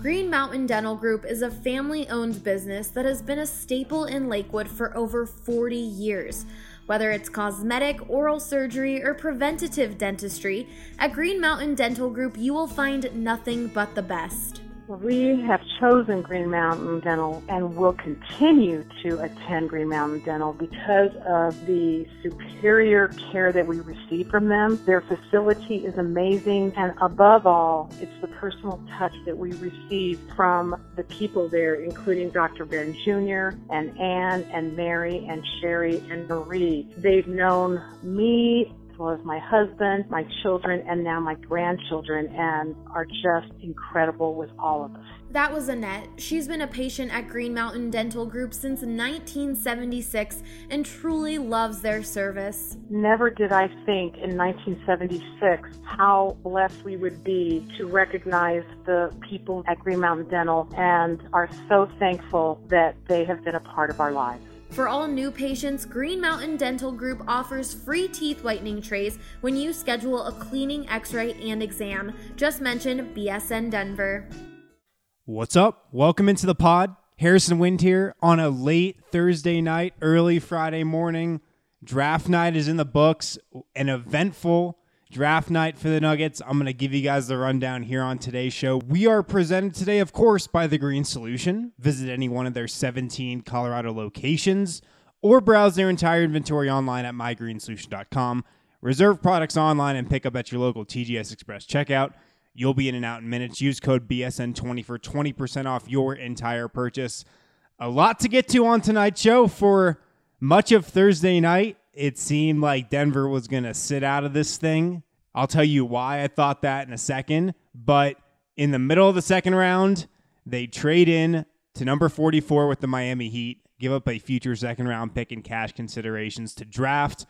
Green Mountain Dental Group is a family-owned business that has been a staple in Lakewood for over 40 years. Whether it's cosmetic, oral surgery, or preventative dentistry, at Green Mountain Dental Group you will find nothing but the best. We have chosen Green Mountain Dental and will continue to attend Green Mountain Dental because of the superior care that we receive from them. Their facility is amazing, and above all, it's the personal touch that we receive from the people there, including Dr. Ben Jr. and Ann and Mary and Sherry and Marie. They've known me as well as my husband, my children, and now my grandchildren, and are just incredible with all of us. That was Annette. She's been a patient at Green Mountain Dental Group since 1976 and truly loves their service. Never did I think in 1976 how blessed we would be to recognize the people at Green Mountain Dental, and are so thankful that they have been a part of our lives. For all new patients, Green Mountain Dental Group offers free teeth whitening trays when you schedule a cleaning, x-ray, and exam. Just mention BSN Denver. What's up? Welcome into the pod. Harrison Wind here on a late Thursday night, early Friday morning. Draft night is in the books, an eventful draft night for the Nuggets. I'm going to give you guys the rundown here on today's show. We are presented today, of course, by The Green Solution. Visit any one of their 17 Colorado locations or browse their entire inventory online at mygreensolution.com. Reserve products online and pick up at your local TGS Express checkout. You'll be in and out in minutes. Use code BSN20 for 20% off your entire purchase. A lot to get to on tonight's show. For much of Thursday night, it seemed like Denver was going to sit out of this thing. I'll tell you why I thought that in a second. But in the middle of the second round, they trade in to number 44 with the Miami Heat, give up a future second round pick and cash considerations to draft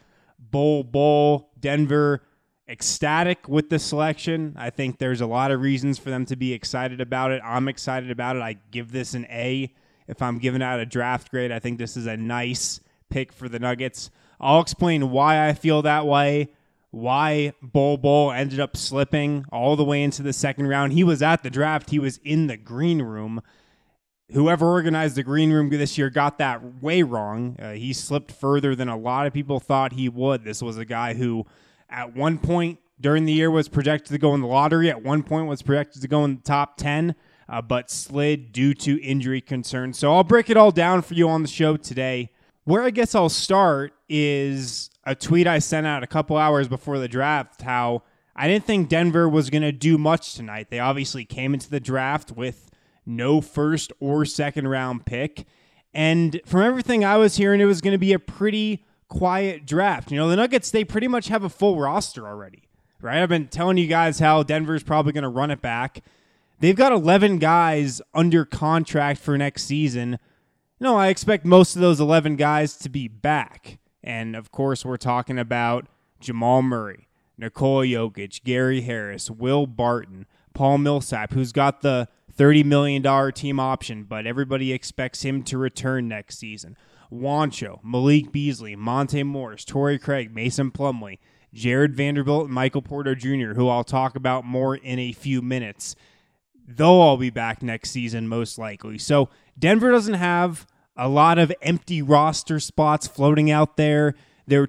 Bol. Denver ecstatic with the selection. I think there's a lot of reasons for them to be excited about it. I'm excited about it. I give this an A. If I'm giving out a draft grade, I think this is a nice pick for the Nuggets. I'll explain why I feel that way, why Bol ended up slipping all the way into the second round. He was at the draft. He was in the green room. Whoever organized the green room this year got that way wrong. He slipped further than a lot of people thought he would. This was a guy who at one point during the year was projected to go in the lottery, at one point was projected to go in the top 10, but slid due to injury concerns. So I'll break it all down for you on the show today. Where I guess I'll start is a tweet I sent out a couple hours before the draft, how I didn't think Denver was going to do much tonight. They obviously came into the draft with no first or second round pick. And from everything I was hearing, it was going to be a pretty quiet draft. You know, the Nuggets, they pretty much have a full roster already, right? I've been telling you guys how Denver's probably going to run it back. They've got 11 guys under contract for next season. No, I expect most of those 11 guys to be back. And, of course, we're talking about Jamal Murray, Nikola Jokic, Gary Harris, Will Barton, Paul Millsap, who's got the $30 million team option, but everybody expects him to return next season. Juancho, Malik Beasley, Monte Morris, Torrey Craig, Mason Plumlee, Jared Vanderbilt, and Michael Porter Jr., who I'll talk about more in a few minutes. They'll all be back next season, most likely. So Denver doesn't have a lot of empty roster spots floating out there. There are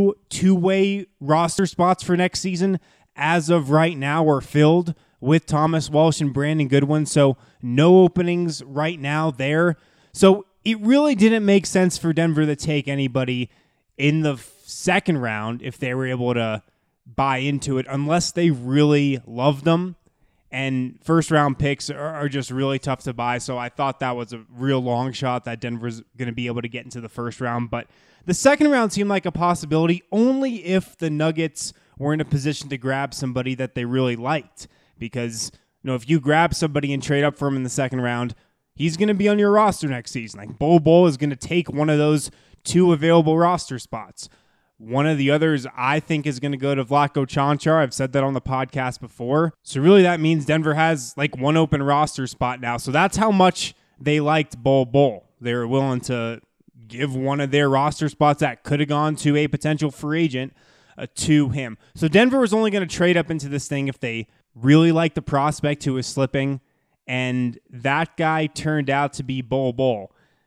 two-way roster spots for next season as of right now are filled with Thomas Walsh and Brandon Goodwin. So no openings right now there. So it really didn't make sense for Denver to take anybody in the second round if they were able to buy into it, unless they really loved them. And first-round picks are just really tough to buy, so I thought that was a real long shot that Denver's going to be able to get into the first round. But the second round seemed like a possibility only if the Nuggets were in a position to grab somebody that they really liked. Because, you know, if you grab somebody and trade up for him in the second round, he's going to be on your roster next season. Like, Bol is going to take one of those two available roster spots. One of the others I think is going to go to Vlatko Čančar. I've said that on the podcast before. So really that means Denver has like one open roster spot now. So that's how much they liked Bol. They were willing to give one of their roster spots that could have gone to a potential free agent to him. So Denver was only going to trade up into this thing if they really liked the prospect who was slipping and that guy turned out to be Bol Bol.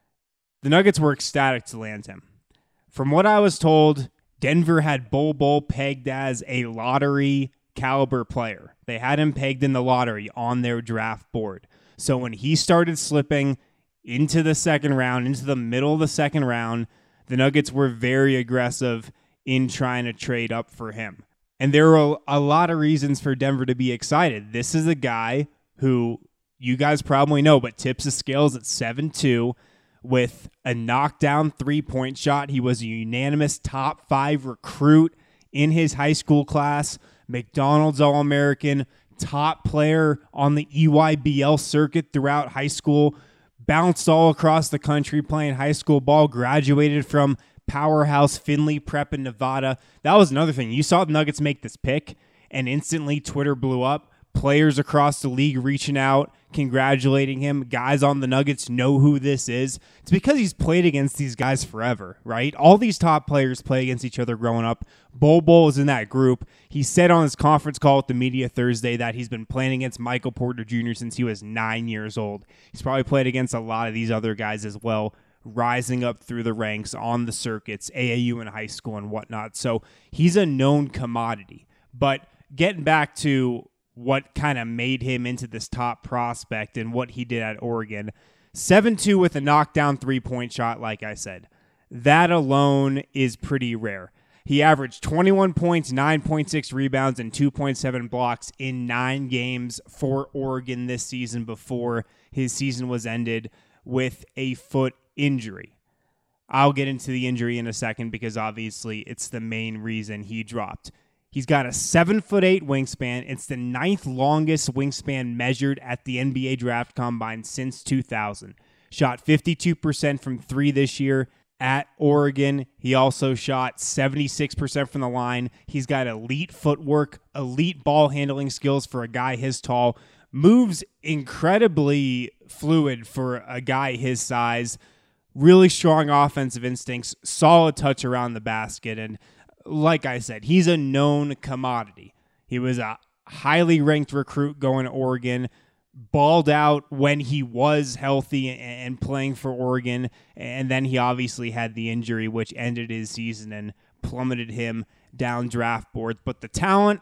The Nuggets were ecstatic to land him. From what I was told, Denver had Bol Bol pegged as a lottery caliber player. They had him pegged in the lottery on their draft board. So when he started slipping into the second round, into the middle of the second round, the Nuggets were very aggressive in trying to trade up for him. And there were a lot of reasons for Denver to be excited. This is a guy who you guys probably know, but tips the scales at 7'2", with a knockdown three-point shot. He was a unanimous top 5 recruit in his high school class, McDonald's All-American, top player on the EYBL circuit throughout high school, bounced all across the country playing high school ball, graduated from powerhouse Findlay Prep in Nevada. That was another thing. You saw the Nuggets make this pick, and instantly Twitter blew up. Players across the league reaching out, congratulating him. Guys on the Nuggets know who this is. It's because he's played against these guys forever, right? All these top players play against each other growing up. Bol Bol is in that group. He said on his conference call with the media Thursday that he's been playing against Michael Porter Jr. since he was 9 years old. He's probably played against a lot of these other guys as well, rising up through the ranks on the circuits, AAU in high school and whatnot. So he's a known commodity. But getting back to what kind of made him into this top prospect and what he did at Oregon, 7'2" with a knockdown three-point shot, like I said. That alone is pretty rare. He averaged 21 points, 9.6 rebounds, and 2.7 blocks in 9 games for Oregon this season before his season was ended with a foot injury. I'll get into the injury in a second because obviously it's the main reason he dropped. He's got a 7'8" wingspan. It's the 9th longest wingspan measured at the NBA Draft Combine since 2000. Shot 52% from 3 this year at Oregon. He also shot 76% from the line. He's got elite footwork, elite ball handling skills for a guy his tall. Moves incredibly fluid for a guy his size. Really strong offensive instincts, solid touch around the basket, and like I said, he's a known commodity. He was a highly ranked recruit going to Oregon, balled out when he was healthy and playing for Oregon, and then he obviously had the injury, which ended his season and plummeted him down draft boards. But the talent,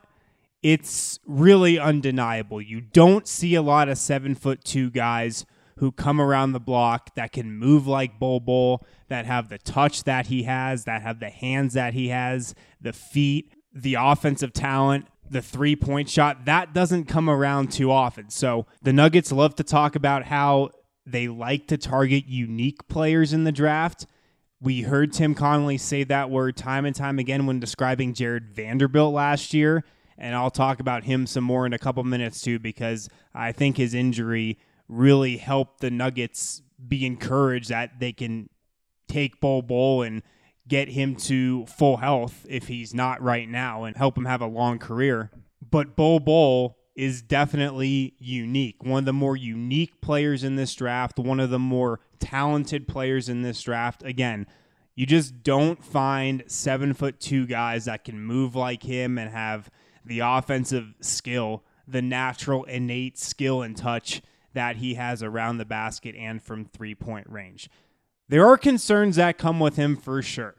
it's really undeniable. You don't see a lot of 7'2" guys who come around the block that can move like Bol Bol, that have the touch that he has, that have the hands that he has, the feet, the offensive talent, the three-point shot. That doesn't come around too often. So the Nuggets love to talk about how they like to target unique players in the draft. We heard Tim Connelly say that word time and time again when describing Jared Vanderbilt last year, and I'll talk about him some more in a couple minutes too because I think his injury really helped the Nuggets be encouraged that they can take Bol Bol and get him to full health if he's not right now and help him have a long career. But Bol Bol is definitely unique. One of the more unique players in this draft, one of the more talented players in this draft. Again, you just don't find 7'2" guys that can move like him and have the offensive skill, the natural innate skill and touch that he has around the basket and from three-point range. There are concerns that come with him for sure,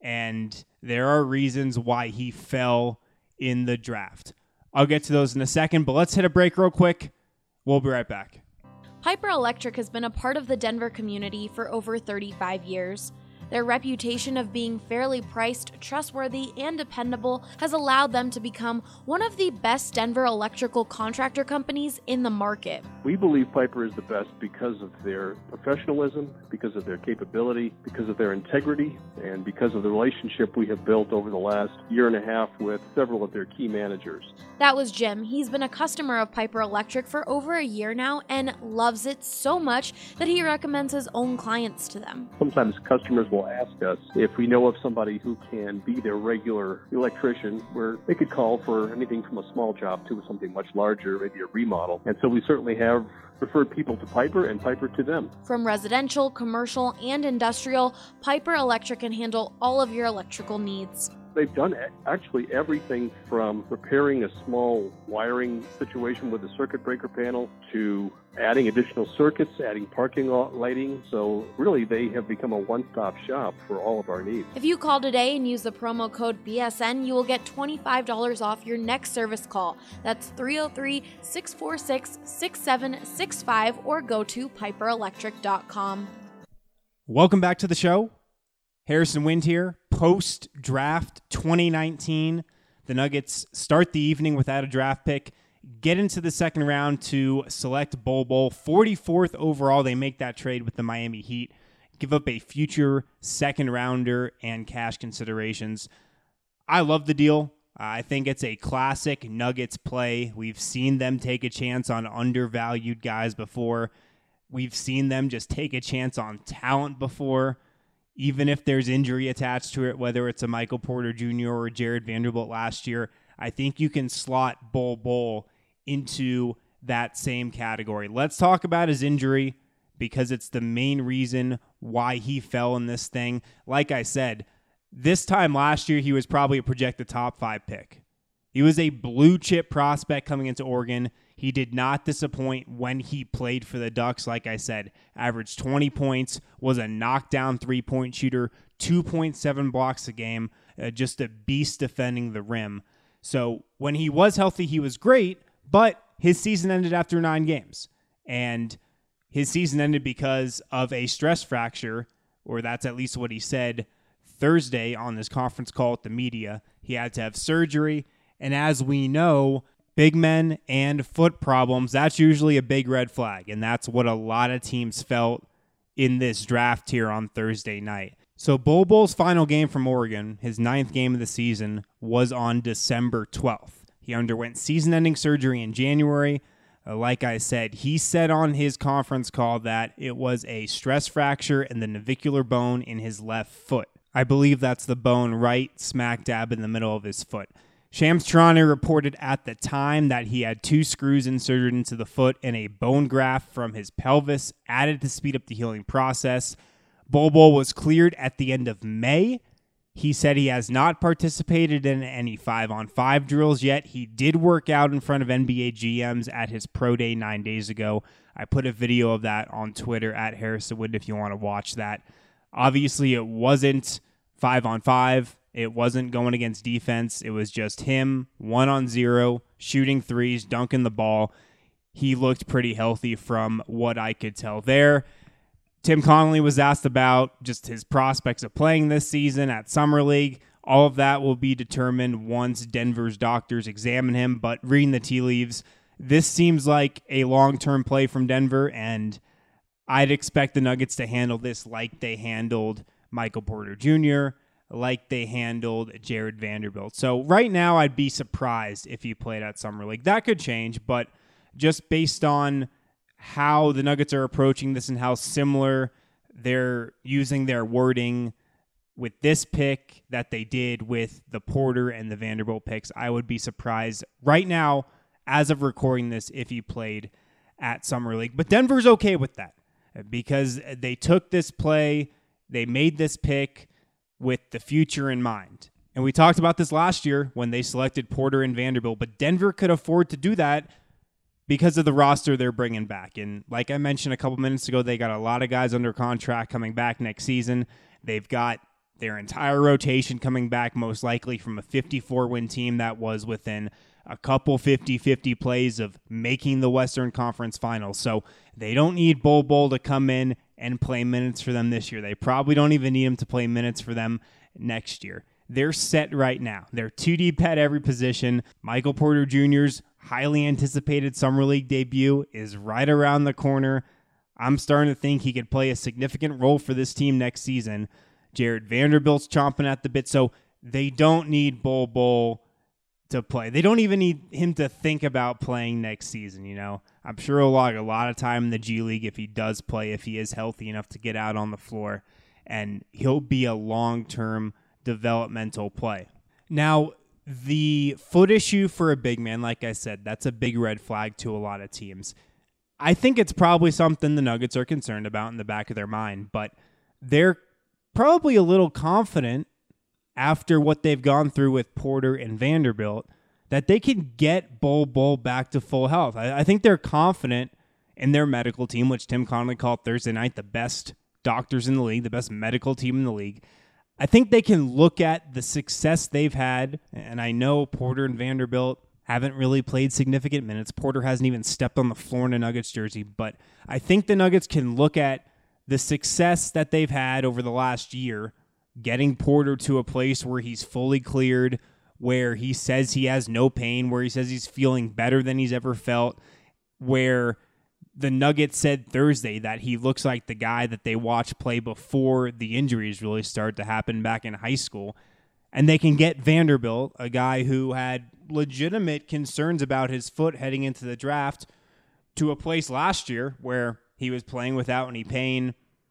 and there are reasons why he fell in the draft. I'll get to those in a second, but let's hit a break real quick. We'll be right back. Piper Electric has been a part of the Denver community for over 35 years. Their reputation of being fairly priced, trustworthy, and dependable has allowed them to become one of the best Denver electrical contractor companies in the market. We believe Piper is the best because of their professionalism, because of their capability, because of their integrity, and because of the relationship we have built over the last year and a half with several of their key managers. That was Jim. He's been a customer of Piper Electric for over a year now and loves it so much that he recommends his own clients to them. Sometimes customers will ask us if we know of somebody who can be their regular electrician, where they could call for anything from a small job to something much larger, maybe a remodel. And so we certainly have referred people to Piper and Piper to them. From residential, commercial, and industrial, Piper Electric can handle all of your electrical needs. They've done actually everything from repairing a small wiring situation with the circuit breaker panel to adding additional circuits, adding parking lot lighting. So really, they have become a one-stop shop for all of our needs. If you call today and use the promo code BSN, you will get $25 off your next service call. That's 303-646-6765 or go to piperelectric.com. Welcome back to the show. Harrison Wind here. Post-draft 2019, the Nuggets start the evening without a draft pick, get into the second round to select Bol Bol. 44th overall, they make that trade with the Miami Heat, give up a future second rounder and cash considerations. I love the deal. I think it's a classic Nuggets play. We've seen them take a chance on undervalued guys before. We've seen them just take a chance on talent before, even if there's injury attached to it, whether it's a Michael Porter Jr. or Jared Vanderbilt last year. I think you can slot Bol Bol into that same category. Let's talk about his injury because it's the main reason why he fell in this thing. Like I said, this time last year, he was probably a projected top 5 pick. He was a blue chip prospect coming into Oregon. He did not disappoint when he played for the Ducks. Like I said, averaged 20 points, was a knockdown three-point shooter, 2.7 blocks a game, just a beast defending the rim. So when he was healthy, he was great, but his season ended after 9 games. And his season ended because of a stress fracture, or that's at least what he said Thursday on this conference call with the media. He had to have surgery. And as we know, big men and foot problems, that's usually a big red flag. And that's what a lot of teams felt in this draft here on Thursday night. So Bol Bol's final game from Oregon, his 9th game of the season, was on December 12th. He underwent season-ending surgery in January. Like I said, he said on his conference call that it was a stress fracture in the navicular bone in his left foot. I believe that's the bone right smack dab in the middle of his foot. Shams Charania reported at the time that he had 2 screws inserted into the foot and a bone graft from his pelvis added to speed up the healing process. Bol Bol was cleared at the end of May. He said he has not participated in any 5-on-5 drills yet. He did work out in front of NBA GMs at his pro day 9 days ago. I put a video of that on Twitter at Harrison Wind if you want to watch that. Obviously, it wasn't 5-on-5. It wasn't going against defense. It was just him, 1-on-0, shooting threes, dunking the ball. He looked pretty healthy from what I could tell there. Tim Connolly was asked about just his prospects of playing this season at Summer League. All of that will be determined once Denver's doctors examine him. But reading the tea leaves, this seems like a long-term play from Denver, and I'd expect the Nuggets to handle this like they handled Michael Porter Jr., like they handled Jared Vanderbilt. So right now, I'd be surprised if he played at Summer League. That could change, but just based on how the Nuggets are approaching this and how similar they're using their wording with this pick that they did with the Porter and the Vanderbilt picks, I would be surprised right now, as of recording this, if he played at Summer League. But Denver's okay with that because they took this play, they made this pick with the future in mind. And we talked about this last year when they selected Porter and Vanderbilt, but Denver could afford to do that because of the roster they're bringing back. And like I mentioned a couple minutes ago, they got a lot of guys under contract coming back next season. They've got their entire rotation coming back, most likely from a 54-win team that was within a couple 50-50 plays of making the Western Conference Finals. So they don't need Bol Bol to come in and play minutes for them this year. They probably don't even need him to play minutes for them next year. They're set right now. They're too deep at every position. Michael Porter Jr.'s highly anticipated Summer League debut is right around the corner. I'm starting to think he could play a significant role for this team next season. Jared Vanderbilt's chomping at the bit, so they don't need Bol Bol to play. They don't even need him to think about playing next season, you know. I'm sure he'll log a lot of time in the G League if he does play, if he is healthy enough to get out on the floor, and he'll be a long-term developmental play. Now, the foot issue for a big man, like I said, that's a big red flag to a lot of teams. I think it's probably something the Nuggets are concerned about in the back of their mind, but they're probably a little confident after what they've gone through with Porter and Vanderbilt, that they can get Bol back to full health. I think they're confident in their medical team, which Tim Connolly called Thursday night the best doctors in the league, the best medical team in the league. I think they can look at the success they've had, and I know Porter and Vanderbilt haven't really played significant minutes. Porter hasn't even stepped on the floor in a Nuggets jersey, but I think the Nuggets can look at the success that they've had over the last year, getting Porter to a place where he's fully cleared, where he says he has no pain, where he says he's feeling better than he's ever felt, where the Nuggets said Thursday that he looks like the guy that they watched play before the injuries really started to happen back in high school. And they can get Vanderbilt, a guy who had legitimate concerns about his foot heading into the draft, to a place last year where he was playing without any pain,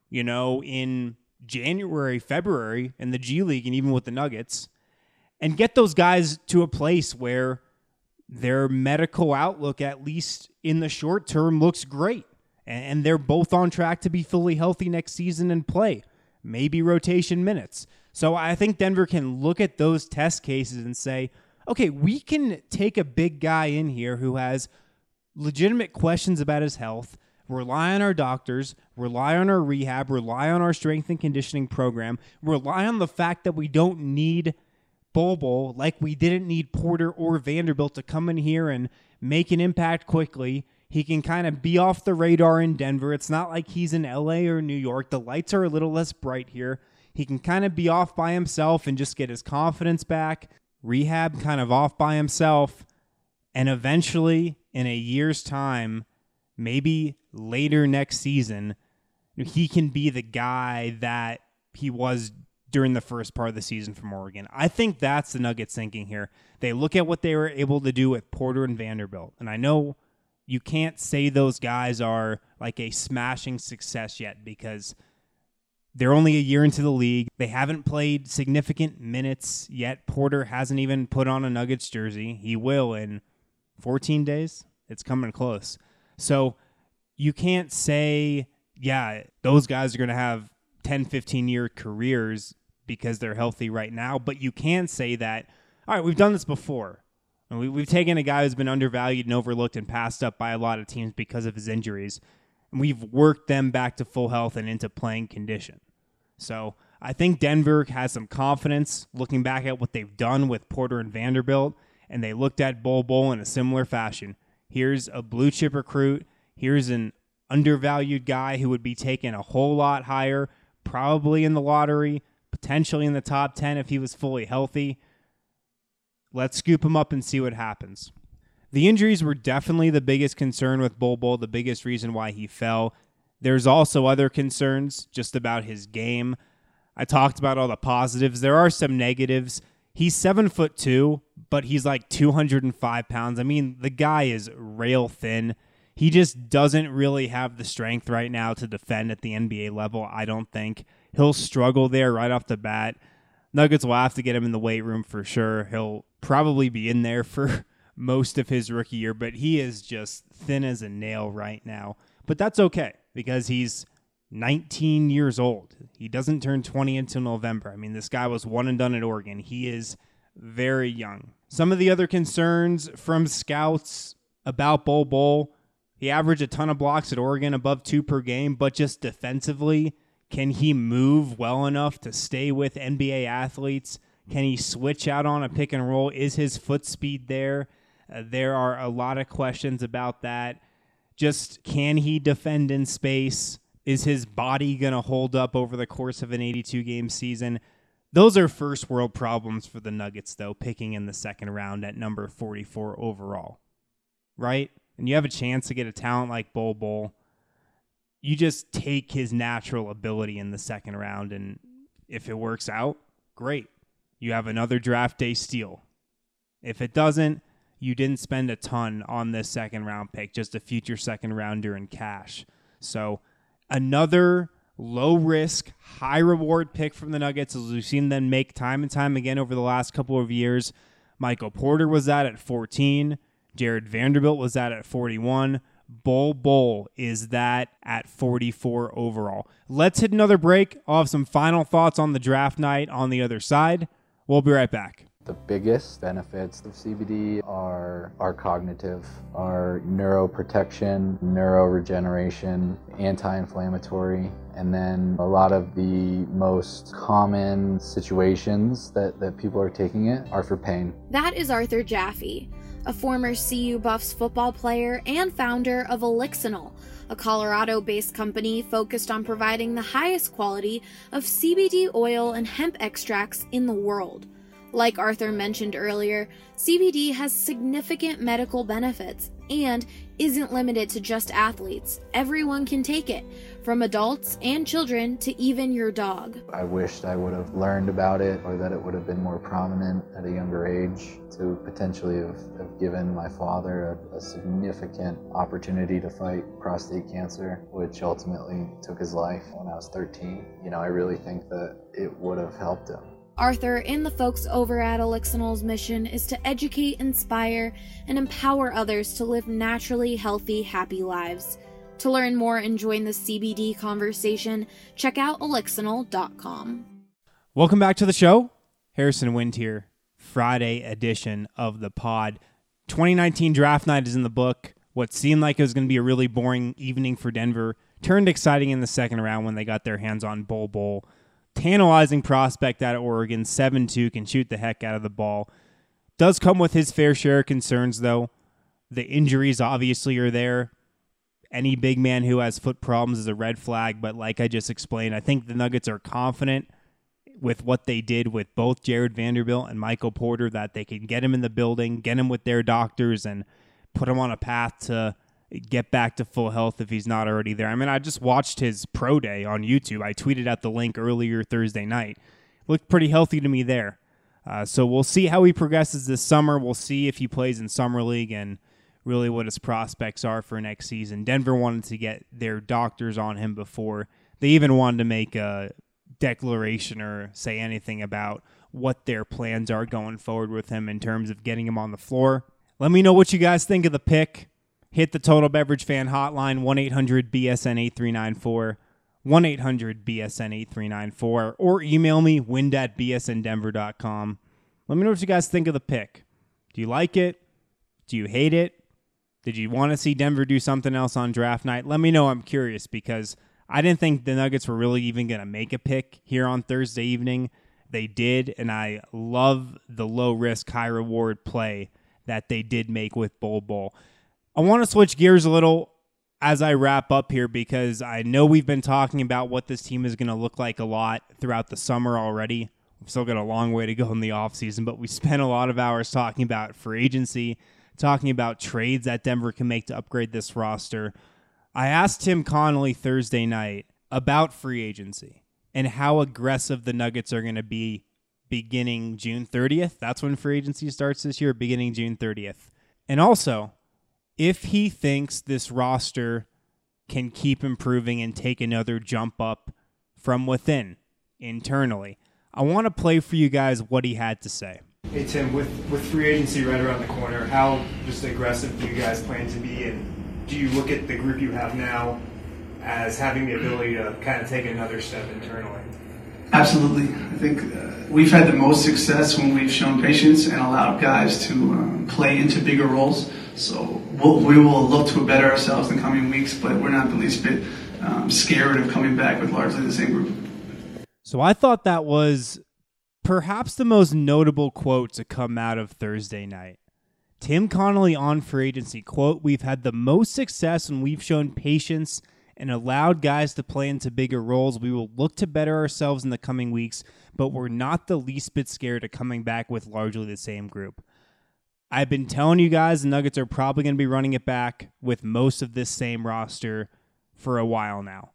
in January, February in the G League and even with the Nuggets, and get those guys to a place where their medical outlook, at least in the short term, looks great. And they're both on track to be fully healthy next season and play, maybe rotation minutes. So I think Denver can look at those test cases and say, okay, we can take a big guy in here who has legitimate questions about his health, rely on our doctors, rely on our rehab, rely on our strength and conditioning program, rely on the fact that we don't need Bol like we didn't need Porter or Vanderbilt to come in here and make an impact quickly. He can kind of be off the radar in Denver. It's not like he's in LA or New York. The lights are a little less bright here. He can kind of be off by himself and just get his confidence back, rehab kind of off by himself, and eventually in a year's time, maybe later next season, he can be the guy that he was during the first part of the season from Oregon. I think that's the Nuggets thinking here. They look at what they were able to do with Porter and Vanderbilt, and I know you can't say those guys are like a smashing success yet because they're only a year into the league. They haven't played significant minutes yet. Porter hasn't even put on a Nuggets jersey. He will in 14 days. It's coming close. So you can't say, yeah, those guys are going to have 10, 15-year careers because they're healthy right now. But you can say that, all right, we've done this before. And we've taken a guy who's been undervalued and overlooked and passed up by a lot of teams because of his injuries. And we've worked them back to full health and into playing condition. So I think Denver has some confidence looking back at what they've done with Porter and Vanderbilt, and they looked at Bol in a similar fashion. Here's a blue chip recruit. Here's an undervalued guy who would be taken a whole lot higher, probably in the lottery, potentially in the top 10 if he was fully healthy. Let's scoop him up and see what happens. The injuries were definitely the biggest concern with Bol, the biggest reason why he fell. There's also other concerns just about his game. I talked about all the positives. There are some negatives. He's 7'2", but he's like 205 pounds. I mean, the guy is rail thin. He just doesn't really have the strength right now to defend at the NBA level, I don't think. He'll struggle there right off the bat. Nuggets will have to get him in the weight room for sure. He'll probably be in there for most of his rookie year, but he is just thin as a nail right now. But that's okay because he's 19 years old. He doesn't turn 20 until November. I mean, this guy was one and done at Oregon. He is very young. Some of the other concerns from scouts about Bol, he averaged a ton of blocks at Oregon, above 2 per game, but just defensively, can he move well enough to stay with NBA athletes? Can he switch out on a pick and roll? Is his foot speed there? There are a lot of questions about that. Just can he defend in space? Is his body going to hold up over the course of an 82-game season? Those are first-world problems for the Nuggets, though, picking in the second round at number 44 overall, right? And you have a chance to get a talent like Bol. You just take his natural ability in the second round, and if it works out, great. You have another draft day steal. If it doesn't, you didn't spend a ton on this second-round pick, just a future second-rounder in cash. So another low-risk, high-reward pick from the Nuggets, as we've seen them make time and time again over the last couple of years. Michael Porter was that at 14. Jared Vanderbilt was that at 41. Bol is that at 44 overall. Let's hit another break. I'll have some final thoughts on the draft night on the other side. We'll be right back. The biggest benefits of CBD are cognitive, are neuroprotection, neuroregeneration, anti-inflammatory, and then a lot of the most common situations that people are taking it are for pain. That is Arthur Jaffe, a former CU Buffs football player and founder of Elixinol, a Colorado-based company focused on providing the highest quality of CBD oil and hemp extracts in the world. Like Arthur mentioned earlier, CBD has significant medical benefits and isn't limited to just athletes. Everyone can take it, from adults and children to even your dog. I wished I would have learned about it, or that it would have been more prominent at a younger age to potentially have given my father a significant opportunity to fight prostate cancer, which ultimately took his life when I was 13. I really think that it would have helped him. Arthur and the folks over at Elixinol's mission is to educate, inspire, and empower others to live naturally healthy, happy lives. To learn more and join the CBD conversation, check out elixinol.com. Welcome back to the show. Harrison Wind here. Friday edition of the pod. 2019 draft night is in the book. What seemed like it was going to be a really boring evening for Denver turned exciting in the second round when they got their hands on Bol Bol. Tantalizing prospect out of Oregon, 7'2", can shoot the heck out of the ball. Does come with his fair share of concerns, though. The injuries obviously are there. Any big man who has foot problems is a red flag, but like I just explained, I think the Nuggets are confident with what they did with both Jared Vanderbilt and Michael Porter that they can get him in the building, get him with their doctors, and put him on a path to get back to full health if he's not already there. I mean, I just watched his pro day on YouTube. I tweeted out the link earlier Thursday night. Looked pretty healthy to me there. So we'll see how he progresses this summer. We'll see if he plays in Summer League and really what his prospects are for next season. Denver wanted to get their doctors on him before they even wanted to make a declaration or say anything about what their plans are going forward with him in terms of getting him on the floor. Let me know what you guys think of the pick. Hit the Total Beverage Fan hotline, 1-800-BSN-8394, 1-800-BSN-8394, or email me, wind@bsndenver.com. Let me know what you guys think of the pick. Do you like it? Do you hate it? Did you want to see Denver do something else on draft night? Let me know. I'm curious because I didn't think the Nuggets were really even going to make a pick here on Thursday evening. They did, and I love the low-risk, high-reward play that they did make with Bol Bol. I want to switch gears a little as I wrap up here because I know we've been talking about what this team is going to look like a lot throughout the summer already. We've still got a long way to go in the offseason, but we spent a lot of hours talking about free agency, talking about trades that Denver can make to upgrade this roster. I asked Tim Connolly Thursday night about free agency and how aggressive the Nuggets are going to be beginning June 30th. That's when free agency starts this year, beginning June 30th. And also, if he thinks this roster can keep improving and take another jump up from within, internally. I want to play for you guys what he had to say. Hey, Tim, with free agency right around the corner, how just aggressive do you guys plan to be? And do you look at the group you have now as having the ability to kind of take another step internally? Absolutely. I think we've had the most success when we've shown patience and allowed guys to play into bigger roles. So we will look to better ourselves in the coming weeks, but we're not the least bit scared of coming back with largely the same group. So I thought that was perhaps the most notable quote to come out of Thursday night. Tim Connolly on free agency, quote, "We've had the most success when we've shown patience and allowed guys to play into bigger roles. We will look to better ourselves in the coming weeks, but we're not the least bit scared of coming back with largely the same group." I've been telling you guys the Nuggets are probably going to be running it back with most of this same roster for a while now.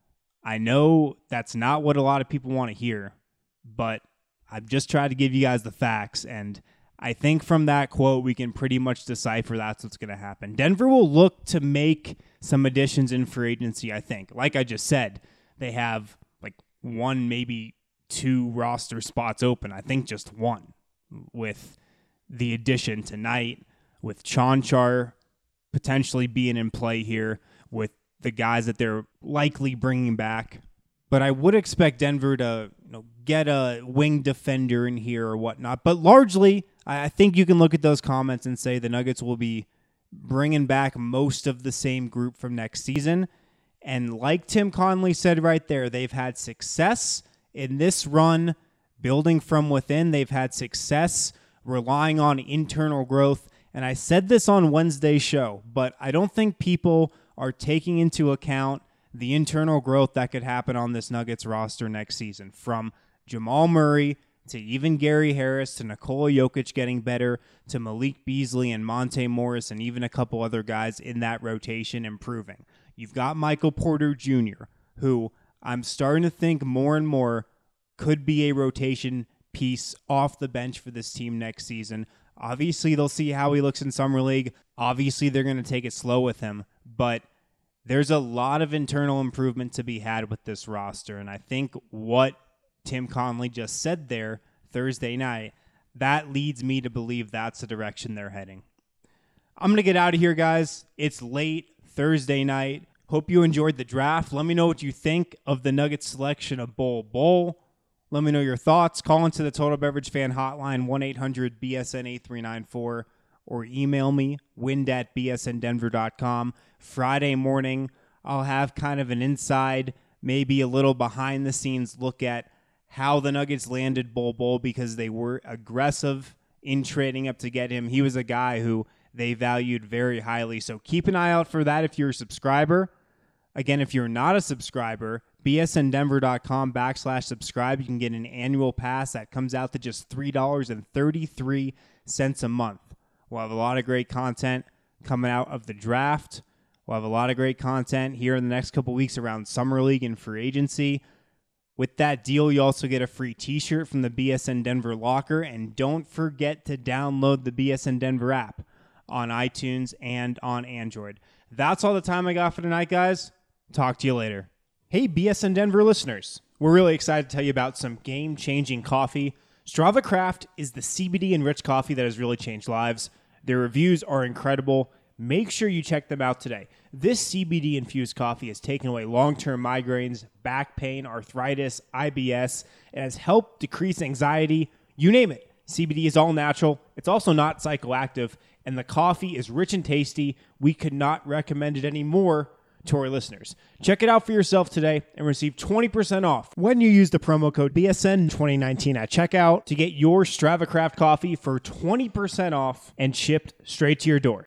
I know that's not what a lot of people want to hear, but I've just tried to give you guys the facts, and I think from that quote we can pretty much decipher that's what's going to happen. Denver will look to make some additions in free agency, I think. Like I just said, they have like one, maybe two roster spots open. I think just one with the addition tonight, with Chanchar potentially being in play here, with the guys that they're likely bringing back. But I would expect Denver to get a wing defender in here or whatnot. But largely, I think you can look at those comments and say the Nuggets will be bringing back most of the same group from next season. And like Tim Connelly said right there, they've had success in this run, building from within. They've had success relying on internal growth. And I said this on Wednesday's show, but I don't think people are taking into account the internal growth that could happen on this Nuggets roster next season, from Jamal Murray to even Gary Harris to Nikola Jokic getting better to Malik Beasley and Monte Morris and even a couple other guys in that rotation improving. You've got Michael Porter Jr., who I'm starting to think more and more could be a rotation piece off the bench for this team next season. Obviously, they'll see how he looks in Summer League. Obviously, they're going to take it slow with him, but there's a lot of internal improvement to be had with this roster, and I think what Tim Connelly just said there Thursday night, that leads me to believe that's the direction they're heading. I'm going to get out of here, guys. It's late Thursday night. Hope you enjoyed the draft. Let me know what you think of the Nuggets selection of Bol Bol. Let me know your thoughts. Call into the Total Beverage Fan Hotline, 1-800-BSN-8394, or email me, wind@bsndenver.com. Friday morning, I'll have kind of an inside, maybe a little behind-the-scenes look at how the Nuggets landed Bol Bol, because they were aggressive in trading up to get him. He was a guy who they valued very highly, so keep an eye out for that if you're a subscriber. Again, if you're not a subscriber, bsndenver.com/subscribe. You can get an annual pass that comes out to just $3.33 a month. We'll have a lot of great content coming out of the draft. We'll have a lot of great content here in the next couple weeks around Summer League and free agency. With that deal, you also get a free t-shirt from the BSN Denver locker. And don't forget to download the BSN Denver app on iTunes and on Android. That's all the time I got for tonight, guys. Talk to you later. Hey, BSN Denver listeners. We're really excited to tell you about some game-changing coffee. Strava Craft is the CBD-enriched coffee that has really changed lives. Their reviews are incredible. Make sure you check them out today. This CBD-infused coffee has taken away long-term migraines, back pain, arthritis, IBS. It has helped decrease anxiety. You name it. CBD is all natural. It's also not psychoactive. And the coffee is rich and tasty. We could not recommend it anymore to our listeners. Check it out for yourself today and receive 20% off when you use the promo code BSN2019 at checkout to get your Strava Craft coffee for 20% off and shipped straight to your door.